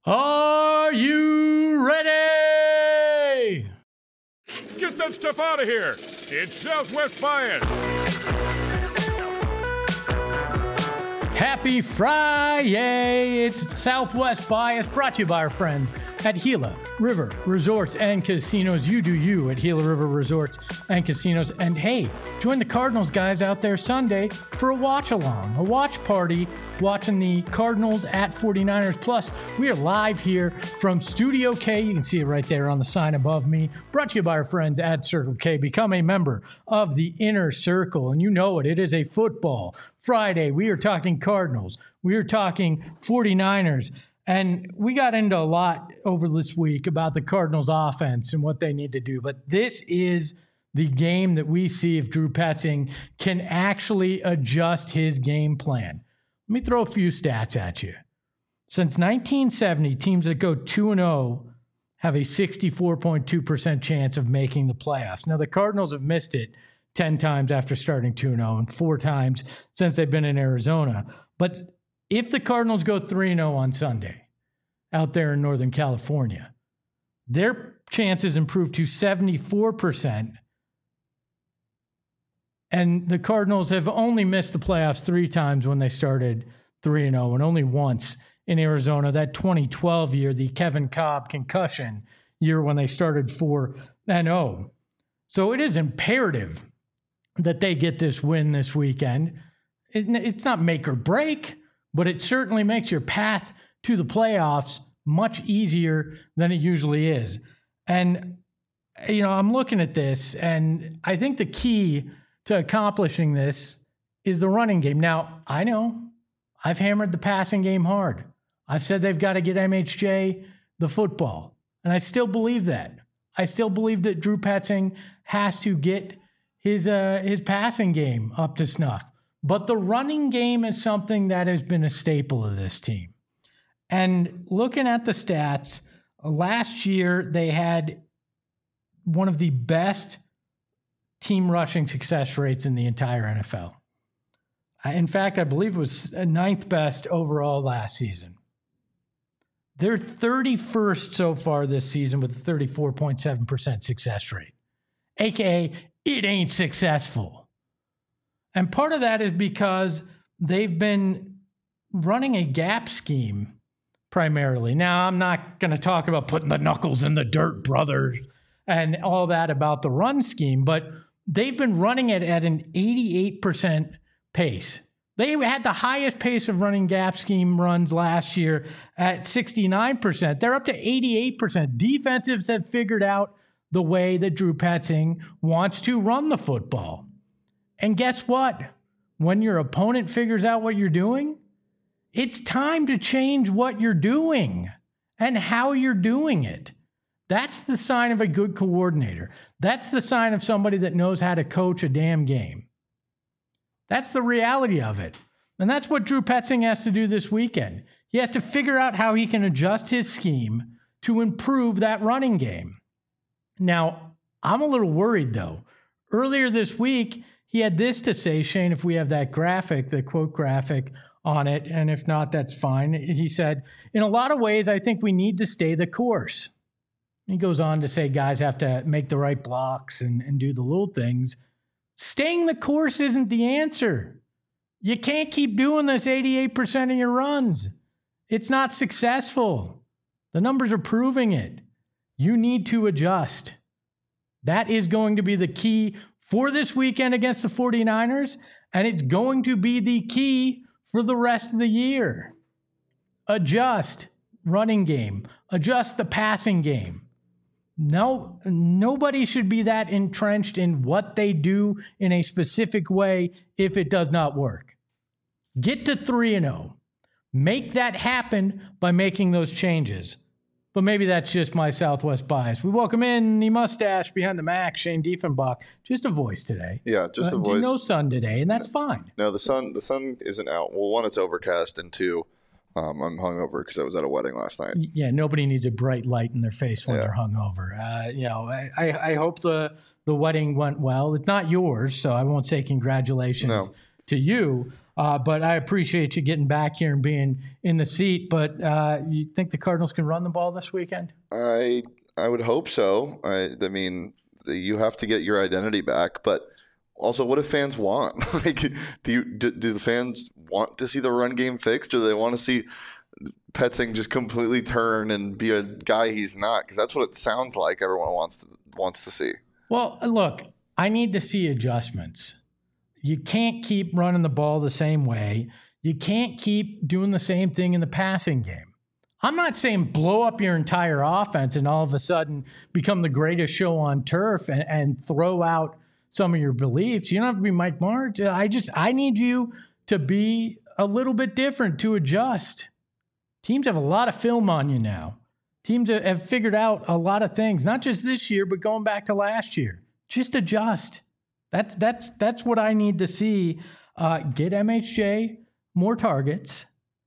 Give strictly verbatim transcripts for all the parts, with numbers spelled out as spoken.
Are you ready? Get that stuff out of here. It's Southwest Bias. Happy Friday. It's Southwest Bias, brought to you by our friends at Gila River Resorts and Casinos. You do you at Gila River Resorts and Casinos. And hey, join the Cardinals guys out there Sunday for a watch along, a watch party, watching the Cardinals at forty-niners. Plus, we are live here from Studio K. You can see it right there on the sign above me. Brought to you by our friends at Circle K. Become a member of the Inner Circle. And you know it, it is a football Friday. We are talking Cardinals. We are talking forty-niners. And we got into a lot over this week about the Cardinals offense and what they need to do. But this is the game that we see if Drew Petzing can actually adjust his game plan. Let me throw a few stats at you. Since nineteen seventy, teams that go two and oh have a sixty-four point two percent chance of making the playoffs. Now, the Cardinals have missed it ten times after starting two and oh and four times since they've been in Arizona. But if the Cardinals go three and oh on Sunday out there in Northern California, their chances improve to seventy-four percent. And the Cardinals have only missed the playoffs three times when they started three and oh, and only once in Arizona, that twenty twelve year, the Kevin Kolb concussion year when they started four and oh. So it is imperative that they get this win this weekend. It, it's not make or break, but it certainly makes your path to the playoffs much easier than it usually is. And, you know, I'm looking at this, and I think the key to accomplishing this is the running game. Now, I know I've hammered the passing game hard. I've said they've got to get M H J the football, and I still believe that. I still believe that Drew Petzing has to get his uh, his passing game up to snuff. But the running game is something that has been a staple of this team. And looking at the stats, last year they had one of the best team rushing success rates in the entire N F L. In fact, I believe it was ninth best overall last season. They're thirty-first so far this season with a thirty-four point seven percent success rate, A K A it ain't successful. And part of that is because they've been running a gap scheme primarily. Now, I'm not going to talk about putting the knuckles in the dirt, brothers, and all that about the run scheme, but they've been running it at an eighty-eight percent pace. They had the highest pace of running gap scheme runs last year at sixty-nine percent. They're up to eighty-eight percent. Defensives have figured out the way that Drew Petzing wants to run the football. And guess what? When your opponent figures out what you're doing, it's time to change what you're doing and how you're doing it. That's the sign of a good coordinator. That's the sign of somebody that knows how to coach a damn game. That's the reality of it. And that's what Drew Petzing has to do this weekend. He has to figure out how he can adjust his scheme to improve that running game. Now, I'm a little worried, though. Earlier this week, he had this to say, Shane, if we have that graphic, the quote graphic on it, and if not, that's fine. He said, in a lot of ways, I think we need to stay the course. He goes on to say guys have to make the right blocks and, and do the little things. Staying the course isn't the answer. You can't keep doing this eighty-eight percent of your runs. It's not successful. The numbers are proving it. You need to adjust. That is going to be the key for this weekend against the forty-niners, and it's going to be the key for the rest of the year. Adjust running game. Adjust the passing game. No, nobody should be that entrenched in what they do in a specific way if it does not work. Get to three and oh. Make that happen by making those changes. But maybe that's just my Southwest bias. We welcome in the mustache behind the Mac, Shane Diefenbach. Just a voice today. Yeah, just uh, a voice. No sun today, and that's no, fine. No, the sun the sun isn't out. Well, one, it's overcast, and two, um, I'm hungover because I was at a wedding last night. Yeah, nobody needs a bright light in their face when yeah. they're hungover. Uh, you know, I, I, I hope the, the wedding went well. It's not yours, so I won't say congratulations no. to you. Uh, but I appreciate you getting back here and being in the seat. But uh, you think the Cardinals can run the ball this weekend? I I would hope so. I, I mean, you have to get your identity back, but also, what do fans want? like, do you do, do the fans want to see the run game fixed, or do they want to see Petzing just completely turn and be a guy he's not? Because that's what it sounds like everyone wants to, wants to see. Well, look, I need to see adjustments. You can't keep running the ball the same way. You can't keep doing the same thing in the passing game. I'm not saying blow up your entire offense and all of a sudden become the greatest show on turf and, and throw out some of your beliefs. You don't have to be Mike Martz. I just, I need you to be a little bit different, to adjust. Teams have a lot of film on you now. Teams have figured out a lot of things, not just this year, but going back to last year. Just adjust. That's that's that's what I need to see. Uh, get M H J more targets.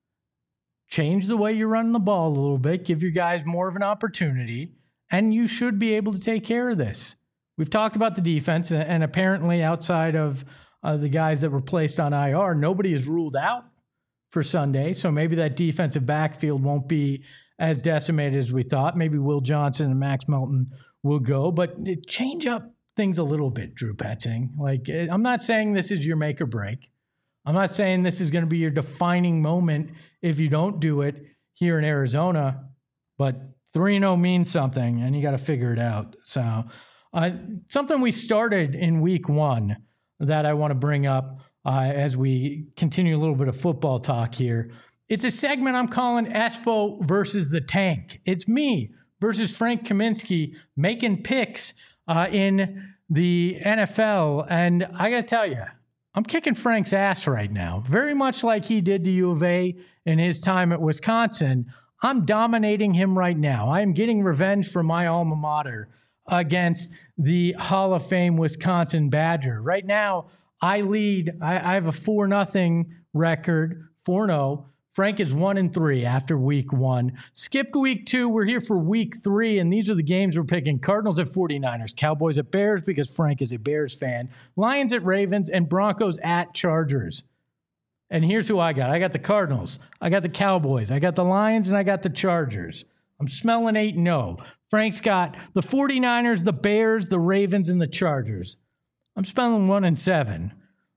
Change the way you're running the ball a little bit. Give your guys more of an opportunity. And you should be able to take care of this. We've talked about the defense, and apparently outside of uh, the guys that were placed on I R, nobody is ruled out for Sunday. So maybe that defensive backfield won't be as decimated as we thought. Maybe Will Johnson and Max Melton will go. But it, change up things a little bit, Drew Petzing. Like, I'm not saying this is your make or break. I'm not saying this is going to be your defining moment if you don't do it here in Arizona. But three and oh means something, and you got to figure it out. So uh, something we started in week one that I want to bring up uh, as we continue a little bit of football talk here. It's a segment I'm calling Espo versus the Tank. It's me versus Frank Kaminsky making picks uh, in the N F L. And I got to tell you, I'm kicking Frank's ass right now, very much like he did to U of A in his time at Wisconsin. I'm dominating him right now. I am getting revenge for my alma mater against the Hall of Fame Wisconsin Badger. Right now, I lead. I, I have a four nothing record, four and oh. Frank is one and three after week one. Skipped week two. We're here for week three, and these are the games we're picking. Cardinals at forty-niners, Cowboys at Bears because Frank is a Bears fan, Lions at Ravens, and Broncos at Chargers. And here's who I got. I got the Cardinals. I got the Cowboys. I got the Lions, and I got the Chargers. I'm smelling eight and oh. Frank's got the forty-niners, the Bears, the Ravens, and the Chargers. I'm smelling one and seven.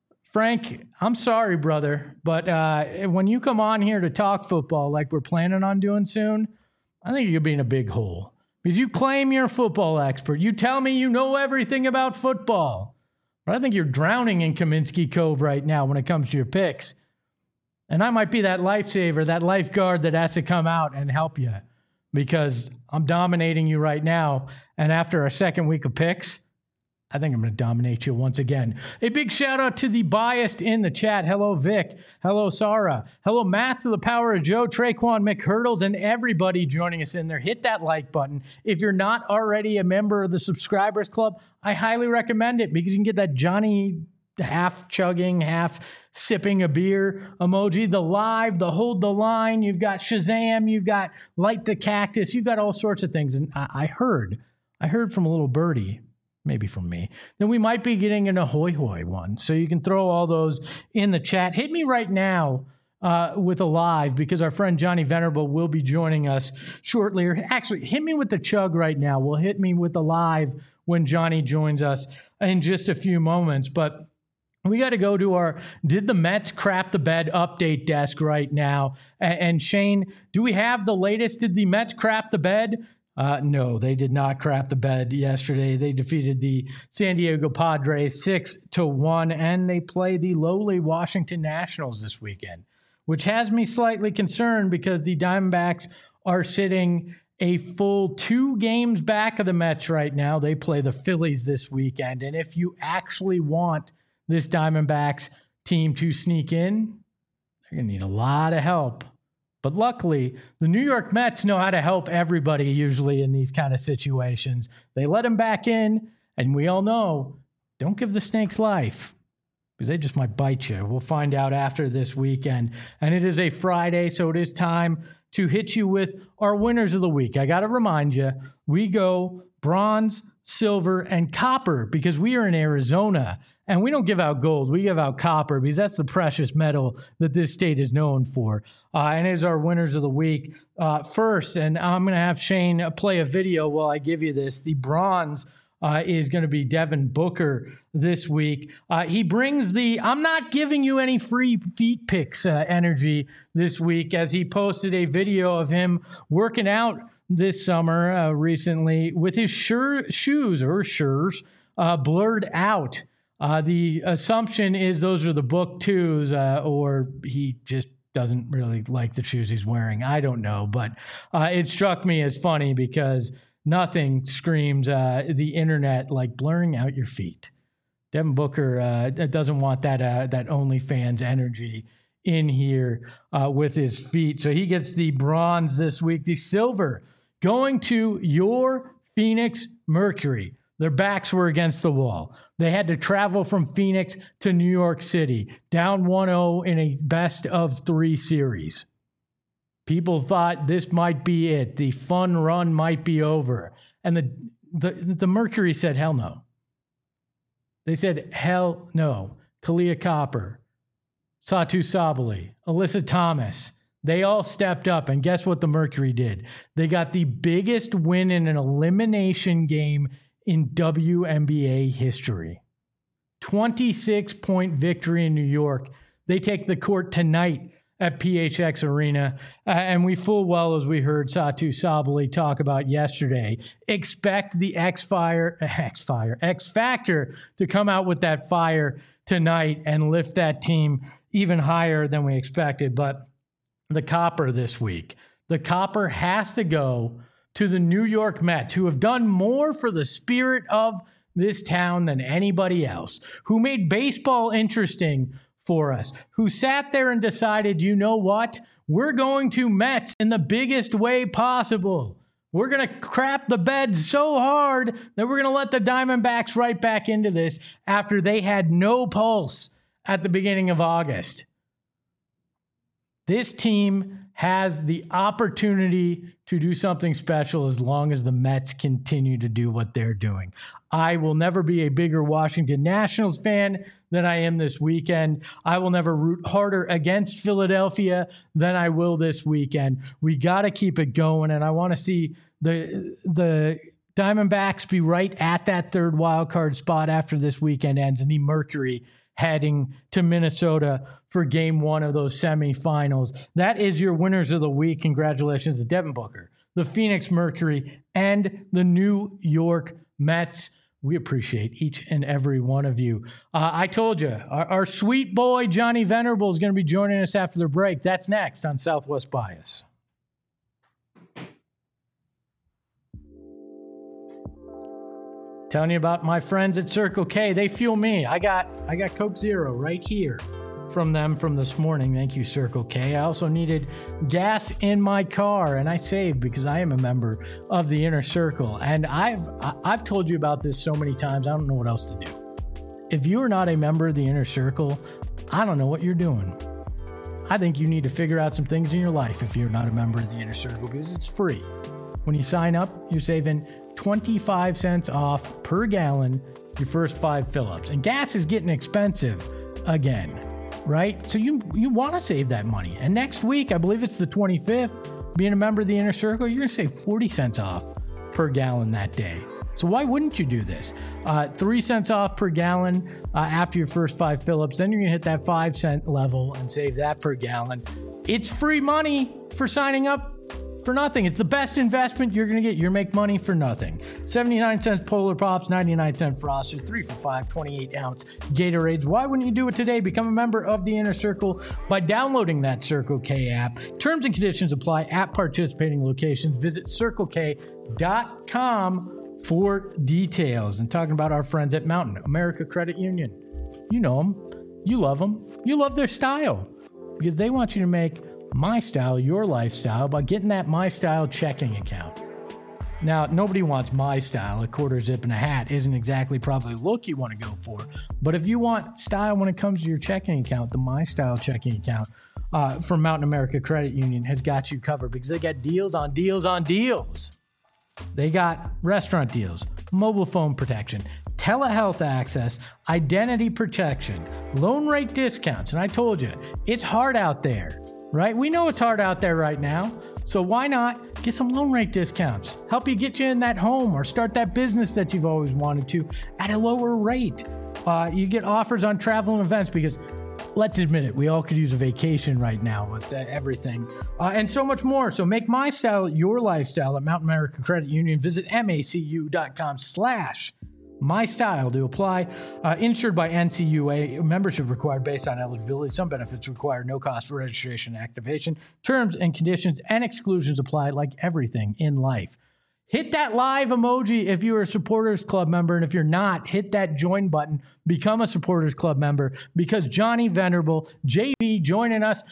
Frank, I'm sorry, brother, but uh, when you come on here to talk football like we're planning on doing soon, I think you're being a big hole. Because you claim you're a football expert. You tell me you know everything about football. But I think you're drowning in Kaminsky Cove right now when it comes to your picks. And I might be that lifesaver, that lifeguard that has to come out and help you. Because I'm dominating you right now. And after a second week of picks, I think I'm going to dominate you once again. A big shout out to the biased in the chat. Hello, Vic. Hello, Sarah. Hello, Math to the Power of Joe, Traquan McHurdles, and everybody joining us in there. Hit that like button. If you're not already a member of the Subscribers Club, I highly recommend it because you can get that Johnny half chugging, half sipping a beer emoji, the live, the hold the line. You've got Shazam. You've got Light the Cactus. You've got all sorts of things. And I, I heard, I heard from a little birdie, maybe from me, then we might be getting an ahoy hoy one. So you can throw all those in the chat. Hit me right now uh, with a live because our friend Johnny Venerable will be joining us shortly. Or actually, hit me with the chug right now. We'll hit me with the live when Johnny joins us in just a few moments. But we got to go to our Did the Mets Crap the Bed update desk right now. And, and Shane, do we have the latest Did the Mets Crap the Bed? Uh, no, they did not crap the bed yesterday. They defeated the San Diego Padres six to one, and they play the lowly Washington Nationals this weekend, which has me slightly concerned because the Diamondbacks are sitting a full two games back of the Mets right now. They play the Phillies this weekend, and if you actually want this Diamondbacks team to sneak in, they're going to need a lot of help. But luckily, the New York Mets know how to help everybody usually in these kind of situations. They let him back in, and we all know, don't give the snakes life because they just might bite you. We'll find out after this weekend. And it is a Friday, so it is time to hit you with our winners of the week. I got to remind you, we go bronze, silver, and copper because we are in Arizona. And we don't give out gold. We give out copper because that's the precious metal that this state is known for. Uh, and here's our winners of the week. Uh, first, and I'm going to have Shane play a video while I give you this. The bronze uh, is going to be Devin Booker this week. Uh, he brings the I'm not giving you any free feet pics uh, energy this week as he posted a video of him working out this summer uh, recently with his shir- shoes or shurs uh, blurred out. Uh, the assumption is those are the book twos, uh, or he just doesn't really like the shoes he's wearing. I don't know, but uh, it struck me as funny because nothing screams uh, the internet like blurring out your feet. Devin Booker uh, doesn't want that uh, that OnlyFans energy in here uh, with his feet. So he gets the bronze this week. The silver going to your Phoenix Mercury. Their backs were against the wall. They had to travel from Phoenix to New York City, down one oh in a best of three series. People thought this might be it. The fun run might be over. And the the, the Mercury said, hell no. They said, hell no. Kahleah Copper, Satou Sabally, Alyssa Thomas, they all stepped up. And guess what the Mercury did? They got the biggest win in an elimination game in W N B A history. twenty-six point victory in New York. They take the court tonight at P H X Arena. Uh, and we full well, as we heard Satou Sabally talk about yesterday, expect the X-Fire, X-Fire, X-Factor to come out with that fire tonight and lift that team even higher than we expected. But the Copper this week, the Copper has to go to the New York Mets, who have done more for the spirit of this town than anybody else, who made baseball interesting for us, who sat there and decided, you know what? We're going to Mets in the biggest way possible. We're going to crap the bed so hard that we're going to let the Diamondbacks right back into this after they had no pulse at the beginning of August. This team has the opportunity to do something special as long as the Mets continue to do what they're doing. I will never be a bigger Washington Nationals fan than I am this weekend. I will never root harder against Philadelphia than I will this weekend. We got to keep it going, and I want to see the the Diamondbacks be right at that third wild card spot after this weekend ends, and the Mercury heading to Minnesota for game one of those semifinals. That is your winners of the week. Congratulations to Devin Booker, the Phoenix Mercury, and the New York Mets. We appreciate each and every one of you. Uh, I told you, our, our sweet boy Johnny Venerable is going to be joining us after the break. That's next on Southwest Bias. Telling you about my friends at Circle K. They fuel me. I got I got Coke Zero right here from them from this morning. Thank you, Circle K. I also needed gas in my car, and I saved because I am a member of the Inner Circle. And I've I've told you about this so many times, I don't know what else to do. If you are not a member of the Inner Circle, I don't know what you're doing. I think you need to figure out some things in your life if you're not a member of the Inner Circle, because it's free. When you sign up, you're saving twenty-five cents off per gallon your first five fill-ups. And gas is getting expensive again, right? So you you want to save that money. And next week, I believe it's the twenty-fifth, being a member of the Inner Circle, you're going to save forty cents off per gallon that day. So why wouldn't you do this? Uh, three cents off per gallon uh, after your first five fill-ups. Then you're going to hit that five cent level and save that per gallon. It's free money for signing up for nothing. It's the best investment you're going to get. You're make money for nothing. seventy-nine cents Polar Pops, ninety-nine cent Frosters, three for five, twenty-eight ounce Gatorades. Why wouldn't you do it today? Become a member of the Inner Circle by downloading that Circle K app. Terms and conditions apply at participating locations. Visit circle k dot com for details. And talking about our friends at Mountain America Credit Union. You know them. You love them. You love their style because they want you to make My Style your lifestyle by getting that My Style checking account. Now, nobody wants My Style. A quarter zip and a hat isn't exactly probably the look you want to go for. But if you want style when it comes to your checking account, the My Style checking account uh, from Mountain America Credit Union has got you covered because they got deals on deals on deals. They got restaurant deals, mobile phone protection, telehealth access, identity protection, loan rate discounts. And I told you, it's hard out there, right? We know it's hard out there right now. So why not get some loan rate discounts? Help you get you in that home or start that business that you've always wanted to at a lower rate. Uh, you get offers on travel and events because, let's admit it, we all could use a vacation right now with uh, everything uh, and so much more. So make my style your lifestyle at Mountain America Credit Union. Visit macu.com slash my style to apply. Uh, insured by N C U A. Membership required based on eligibility. Some benefits require no cost for registration and activation. Terms and conditions and exclusions apply like everything in life. Hit that live emoji if you're a Supporters Club member. And if you're not, hit that join button. Become a Supporters Club member because Johnny Venerable, J V, joining us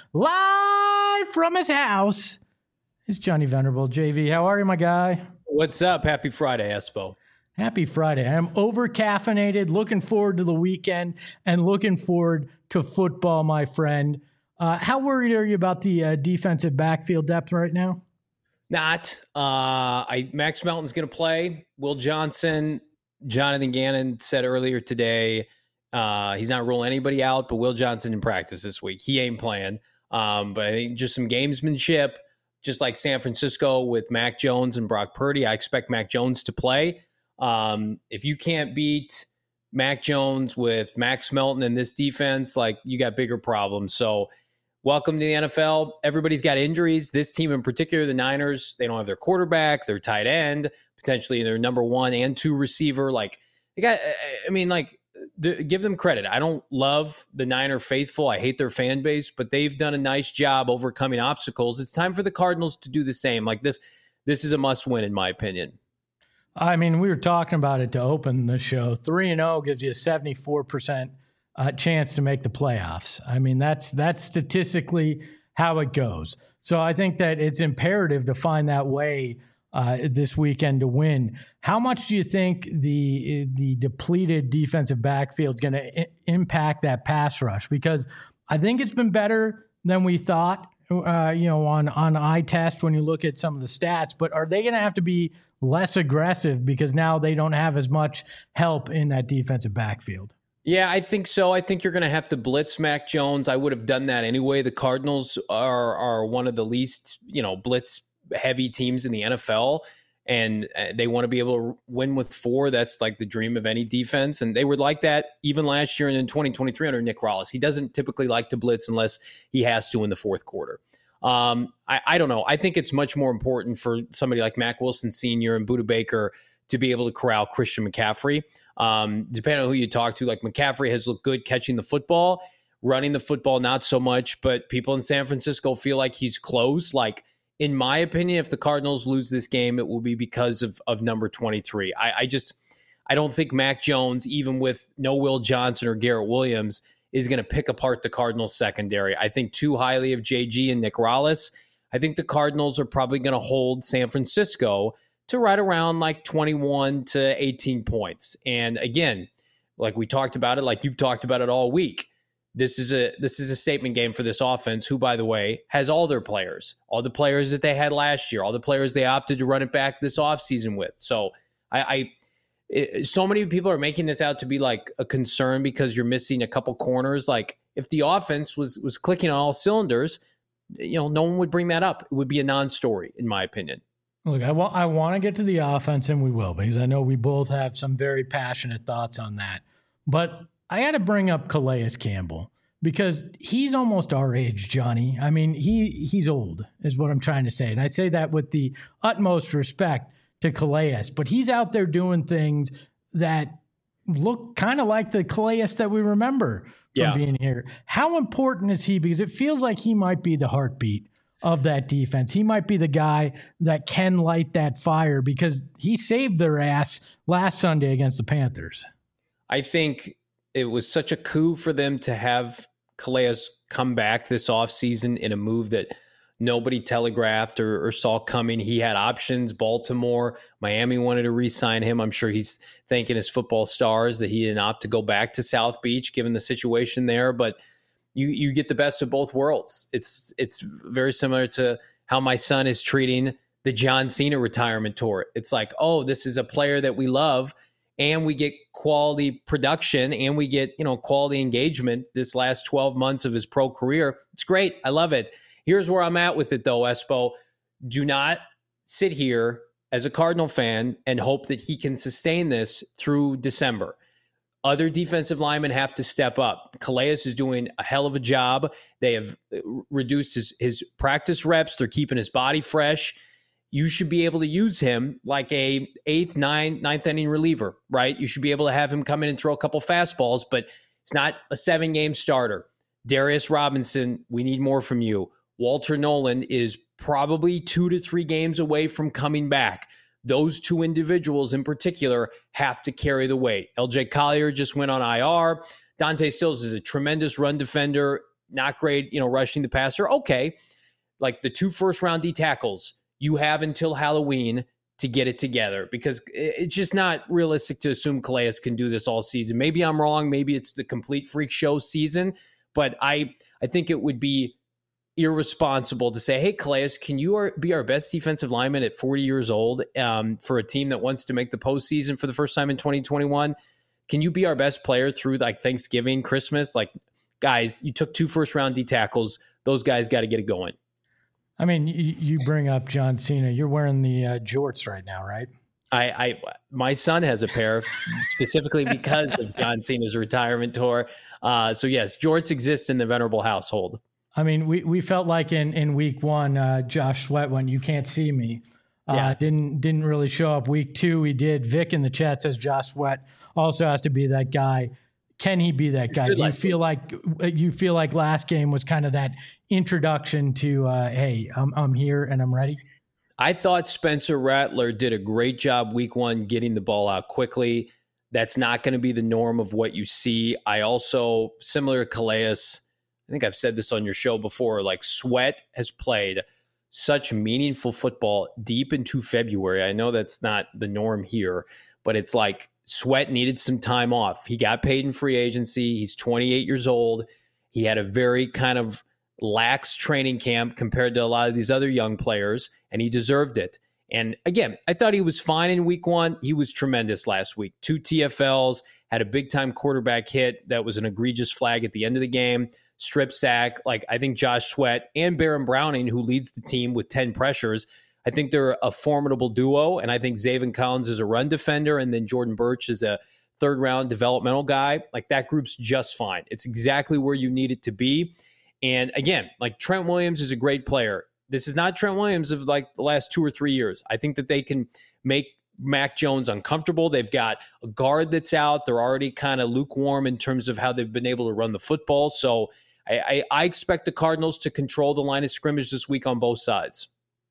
live from his house is Johnny Venerable. J V, how are you, my guy? What's up? Happy Friday, Espo. Happy Friday. I'm over caffeinated, looking forward to the weekend and looking forward to football, my friend. Uh, how worried are you about the uh, defensive backfield depth right now? Not. Uh, I Max Melton's going to play. Will Johnson, Jonathan Gannon said earlier today, uh, he's not ruling anybody out, but Will Johnson in practice this week. He ain't playing. Um, but I think just some gamesmanship, just like San Francisco with Mac Jones and Brock Purdy. I expect Mac Jones to play. Um, if you can't beat Mac Jones with Max Melton in this defense, like you got bigger problems. So welcome to the N F L. Everybody's got injuries. This team in particular, the Niners, they don't have their quarterback, their tight end, potentially their number one and two receiver. Like they got, I mean, like the, give them credit. I don't love the Niner faithful. I hate their fan base, but they've done a nice job overcoming obstacles. It's time for the Cardinals to do the same. Like this, this is a must win in my opinion. I mean, we were talking about it to open the show. three and oh gives you a seventy-four percent uh, chance to make the playoffs. I mean, that's that's statistically how it goes. So I think that it's imperative to find that way uh, this weekend to win. How much do you think the the depleted defensive backfield is going to I- impact that pass rush? Because I think it's been better than we thought, uh, you know, on, on eye test when you look at some of the stats. But are they going to have to be less aggressive because now they don't have as much help in that defensive backfield? Yeah, I think so. I think you're going to have to blitz Mac Jones. I would have done that anyway. The Cardinals are are one of the least, you know, blitz heavy teams in the N F L, and they want to be able to win with four. That's like the dream of any defense, and they were like that even last year and in twenty twenty-three under Nick Rallis. He doesn't typically like to blitz unless he has to in the fourth quarter. Um, I, I don't know. I think it's much more important for somebody like Mack Wilson Senior and Budda Baker to be able to corral Christian McCaffrey. Um, depending on who you talk to, like McCaffrey has looked good catching the football, running the football, not so much, but people in San Francisco feel like he's close. Like, in my opinion, if the Cardinals lose this game, it will be because of, of number twenty-three. I, I just, I don't think Mac Jones, even with no Will Johnson or Garrett Williams, is going to pick apart the Cardinals secondary. I think too highly of J G and Nick Rallis. I think the Cardinals are probably going to hold San Francisco to right around like twenty-one to eighteen points. And again, like we talked about it, like you've talked about it all week, this is a this is a statement game for this offense, who, by the way, has all their players, all the players that they had last year, all the players they opted to run it back this offseason with. So I, I it, so many people are making this out to be like a concern because you're missing a couple corners. Like if the offense was was clicking on all cylinders, you know, no one would bring that up. It would be a non-story, in my opinion. Look, I, wa- I want to get to the offense, and we will, because I know we both have some very passionate thoughts on that. But I got to bring up Calais Campbell because he's almost our age, Johnny. I mean, he he's old is what I'm trying to say. And I say that with the utmost respect to Calais. But he's out there doing things that look kind of like the Calais that we remember from yeah. being here. How important is he? Because it feels like he might be the heartbeat of that defense. He might be the guy that can light that fire because he saved their ass last Sunday against the Panthers. I think it was such a coup for them to have Calais come back this offseason in a move that nobody telegraphed or, or saw coming. He had options. Baltimore, Miami wanted to re-sign him. I'm sure he's thanking his football stars that he didn't opt to go back to South Beach given the situation there. But you you get the best of both worlds. It's it's very similar to how my son is treating the John Cena retirement tour. It's like, oh, this is a player that we love, and we get quality production and we get, you know, quality engagement this last twelve months of his pro career. It's great. I love it. Here's where I'm at with it though, Espo. Do not sit here as a Cardinal fan and hope that he can sustain this through December. Other defensive linemen have to step up. Calais is doing a hell of a job. They have reduced his, his practice reps. They're keeping his body fresh. You should be able to use him like a eighth, ninth, ninth inning reliever, right? You should be able to have him come in and throw a couple fastballs, but it's not a seven-game starter. Darius Robinson, we need more from you. Walter Nolan is probably two to three games away from coming back. Those two individuals in particular have to carry the weight. L J Collier just went on I R. Dante Stills is a tremendous run defender, not great, you know, rushing the passer. Okay, like the two first-round D tackles, you have until Halloween to get it together because it's just not realistic to assume Calais can do this all season. Maybe I'm wrong. Maybe it's the complete freak show season, but I I think it would be irresponsible to say, hey, Calais, can you be our best defensive lineman at forty years old um, for a team that wants to make the postseason for the first time in twenty twenty-one? Can you be our best player through like Thanksgiving, Christmas? Like, guys, you took two first round D tackles. Those guys got to get it going. I mean, you, you bring up John Cena. You're wearing the uh, jorts right now, right? I, I, my son has a pair specifically because of John Cena's retirement tour. Uh, so yes, jorts exist in the Venerable household. I mean, we, we felt like in, in week one, uh, Josh Sweat went, you can't see me. Uh, Yeah. Didn't didn't really show up. Week two, he did. Vic in the chat says Josh Sweat also has to be that guy. Can he be that guy? good Do you last feel like you feel like last game was kind of that introduction to, uh, hey, I'm I'm here and I'm ready? I thought Spencer Rattler did a great job week one getting the ball out quickly. That's not going to be the norm of what you see. I also, similar to Calais, I think I've said this on your show before, like Sweat has played such meaningful football deep into February. I know that's not the norm here, but it's like Sweat needed some time off. He got paid in free agency. He's twenty-eight years old. He had a very kind of lax training camp compared to a lot of these other young players, and he deserved it. And again, I thought he was fine in week one. He was tremendous last week. Two T F Ls, had a big-time quarterback hit that was an egregious flag at the end of the game. Strip sack. Like, I think Josh Sweat and Baron Browning, who leads the team with ten pressures, I think they're a formidable duo. And I think Zaven Collins is a run defender, and then Jordan Birch is a third-round developmental guy. Like, that group's just fine. It's exactly where you need it to be. And again, like Trent Williams is a great player. This is not Trent Williams of like the last two or three years. I think that they can make Mac Jones uncomfortable. They've got a guard that's out. They're already kind of lukewarm in terms of how they've been able to run the football. So I, I, I expect the Cardinals to control the line of scrimmage this week on both sides.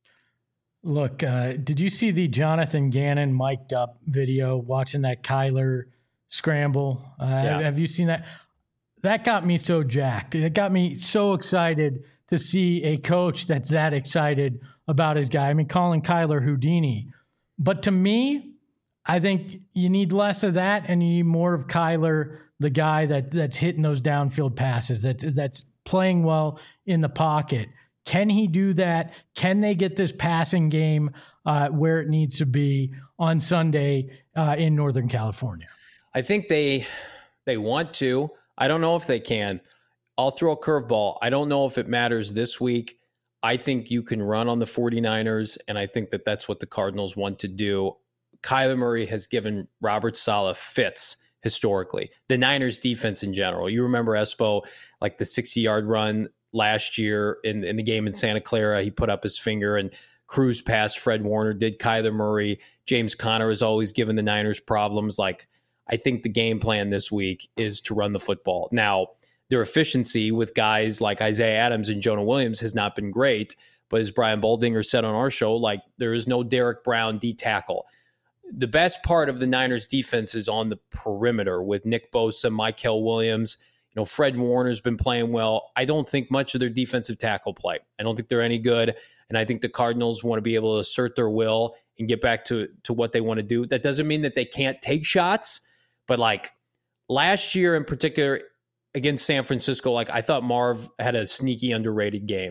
Look, uh, did you see the Jonathan Gannon mic'd up video watching that Kyler scramble? Uh, Yeah. have, have you seen that? That got me so jacked. It got me so excited to see a coach that's that excited about his guy. I mean, calling Kyler Houdini. But to me, I think you need less of that and you need more of Kyler, the guy that that's hitting those downfield passes, that that's playing well in the pocket. Can he do that? Can they get this passing game uh, where it needs to be on Sunday uh, in Northern California? I think they they want to. I don't know if they can. I'll throw a curveball. I don't know if it matters this week. I think you can run on the 49ers, and I think that that's what the Cardinals want to do. Kyler Murray has given Robert Saleh fits historically. The Niners defense in general. You remember Espo, like the sixty-yard run last year in, in the game in Santa Clara. He put up his finger and cruised past Fred Warner. Did Kyler Murray. James Conner has always given the Niners problems. Like, I think the game plan this week is to run the football. Now, their efficiency with guys like Isaiah Adams and Jonah Williams has not been great, but as Brian Baldinger said on our show, like, there is no Derek Brown D tackle. The best part of the Niners defense is on the perimeter with Nick Bosa, Mykel Williams. You know, Fred Warner's been playing well. I don't think much of their defensive tackle play. I don't think they're any good, and I think the Cardinals want to be able to assert their will and get back to, to what they want to do. That doesn't mean that they can't take shots, but like last year in particular against San Francisco, like I thought Marv had a sneaky underrated game.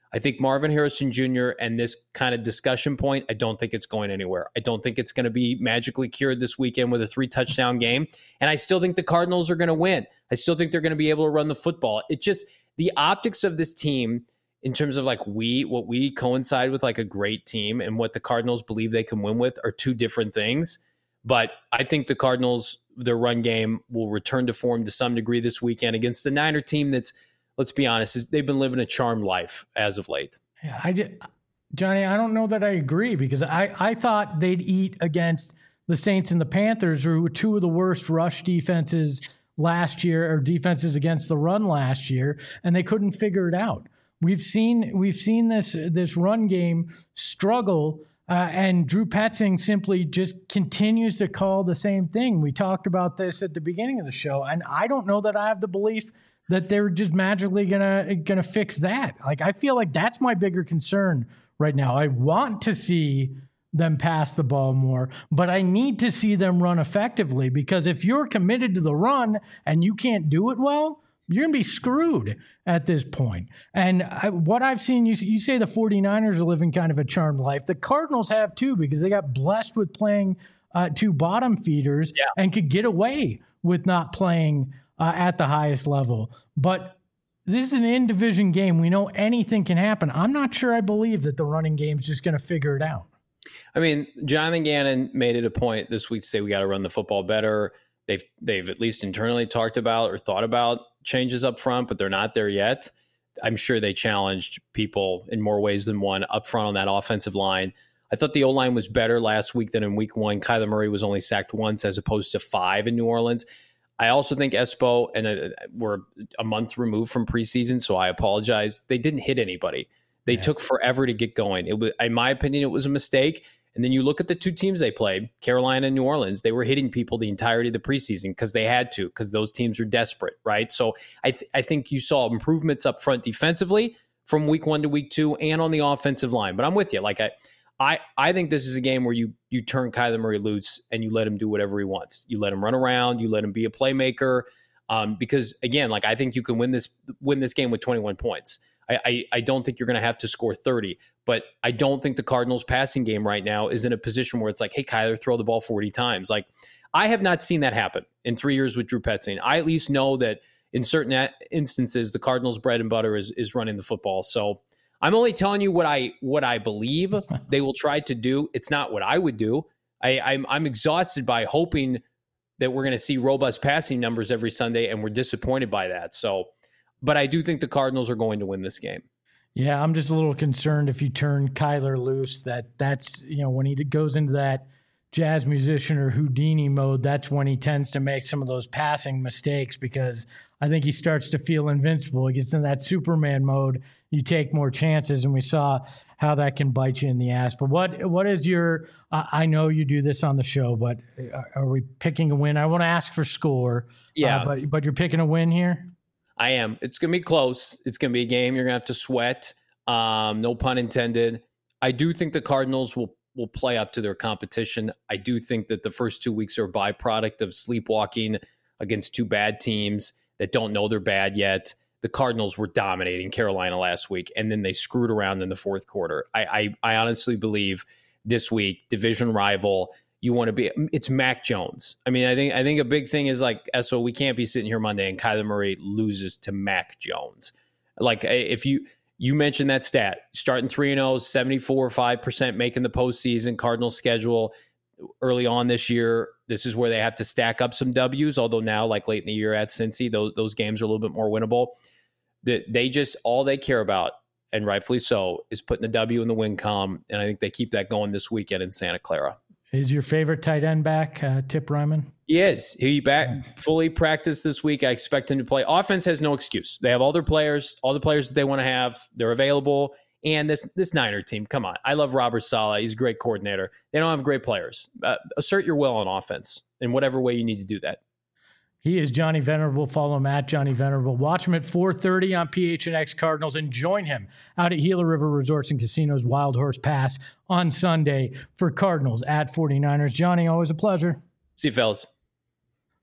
I think Marvin Harrison Junior and this kind of discussion point, I don't think it's going anywhere. I don't think it's going to be magically cured this weekend with a three touchdown game. And I still think the Cardinals are going to win. I still think they're going to be able to run the football. It just, the optics of this team in terms of like we, what we coincide with like a great team and what the Cardinals believe they can win with are two different things. But I think the Cardinals, their run game will return to form to some degree this weekend against the Niner team that's, let's be honest, they've been living a charmed life as of late. Yeah, I just, Johnny, I don't know that I agree because I, I thought they'd eat against the Saints and the Panthers, who were two of the worst rush defenses last year, or defenses against the run last year, and they couldn't figure it out. We've seen we've seen this this run game struggle, uh, and Drew Petzing simply just continues to call the same thing. We talked about this at the beginning of the show, and I don't know that I have the belief that they're just magically gonna gonna fix that. Like, I feel like that's my bigger concern right now. I want to see them pass the ball more, but I need to see them run effectively, because if you're committed to the run and you can't do it well, you're gonna be screwed at this point. And I, what I've seen, you, you say the 49ers are living kind of a charmed life. The Cardinals have too, because they got blessed with playing uh, two bottom feeders yeah. and could get away with not playing Uh, at the highest level. But this is an in-division game. We know anything can happen. I'm not sure I believe that the running game's just going to figure it out. I mean, Jonathan Gannon made it a point this week to say we got to run the football better. They've they've at least internally talked about or thought about changes up front, but they're not there yet. I'm sure they challenged people in more ways than one up front on that offensive line. I thought the O-line was better last week than in week one. Kyler Murray was only sacked once as opposed to five in New Orleans. I also think Espo, and uh, we're a month removed from preseason, so I apologize. They didn't hit anybody. They yeah. took forever to get going. It was, in my opinion, it was a mistake. And then you look at the two teams they played, Carolina and New Orleans. They were hitting people the entirety of the preseason because they had to, because those teams are desperate, right? So I, th- I think you saw improvements up front defensively from week one to week two, and on the offensive line. But I'm with you. Like I. I, I think this is a game where you you turn Kyler Murray loose and you let him do whatever he wants. You let him run around. You let him be a playmaker. Um, because again, like I think you can win this win this game with twenty-one points. I I, I don't think you're going to have to score thirty. But I don't think the Cardinals' passing game right now is in a position where it's like, hey, Kyler, throw the ball forty times. Like I have not seen that happen in three years with Drew Petzing. I at least know that in certain instances, the Cardinals' bread and butter is is running the football. So I'm only telling you what I what I believe they will try to do. It's not what I would do. I, I'm I'm exhausted by hoping that we're going to see robust passing numbers every Sunday, and we're disappointed by that. So, but I do think the Cardinals are going to win this game. Yeah, I'm just a little concerned if you turn Kyler loose, that that's, you know, when he goes into that jazz musician or Houdini mode, that's when he tends to make some of those passing mistakes, because I think he starts to feel invincible. He gets in that Superman mode. You take more chances, and we saw how that can bite you in the ass. But what what is your uh, – I know you do this on the show, but are we picking a win? I want to ask for score. Yeah. Uh, but, but you're picking a win here? I am. It's going to be close. It's going to be a game you're going to have to sweat. Um, no pun intended. I do think the Cardinals will will play up to their competition. I do think that the first two weeks are a byproduct of sleepwalking against two bad teams that don't know they're bad yet. The Cardinals were dominating Carolina last week, and then they screwed around in the fourth quarter. I, I, I honestly believe this week, division rival, you want to be, it's Mac Jones. I mean, I think I think a big thing is like, so we can't be sitting here Monday and Kyler Murray loses to Mac Jones. Like if you, you mentioned that stat, starting three and oh, seventy-four point five percent making the postseason. Cardinals schedule early on this year, this is where they have to stack up some W's, although now, like late in the year at Cincy, those, those games are a little bit more winnable. They, they just, all they care about, and rightfully so, is putting the W in the win column, and I think they keep that going this weekend in Santa Clara. Is your favorite tight end back, uh, Tip Ryman? He is. He back fully practiced this week. I expect him to play. Offense has no excuse. They have all their players, all the players that they want to have. They're available. And this this Niner team, come on. I love Robert Saleh. He's a great coordinator. They don't have great players. Uh, assert your will on offense in whatever way you need to do that. He is Johnny Venerable. Follow him at Johnny Venerable. Watch him at four thirty on P H N X Cardinals, and join him out at Gila River Resorts and Casinos Wild Horse Pass on Sunday for Cardinals at 49ers. Johnny, always a pleasure. See you, fellas.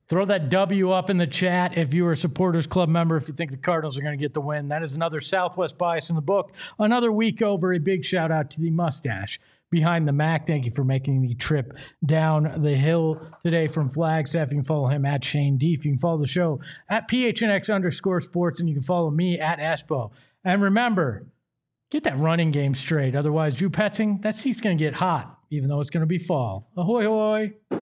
Throw that W up in the chat if you are a Supporters Club member, if you think the Cardinals are going to get the win. That is another Southwest bias in the book. Another week over. A big shout out to the mustache behind the Mac. Thank you for making the trip down the hill today from Flagstaff. You can follow him at Shane Deef. You can follow the show at P H N X underscore sports, and you can follow me at Espo. And remember, get that running game straight. Otherwise, Drew Petzing, that seat's going to get hot, even though it's going to be fall. Ahoy, hoy.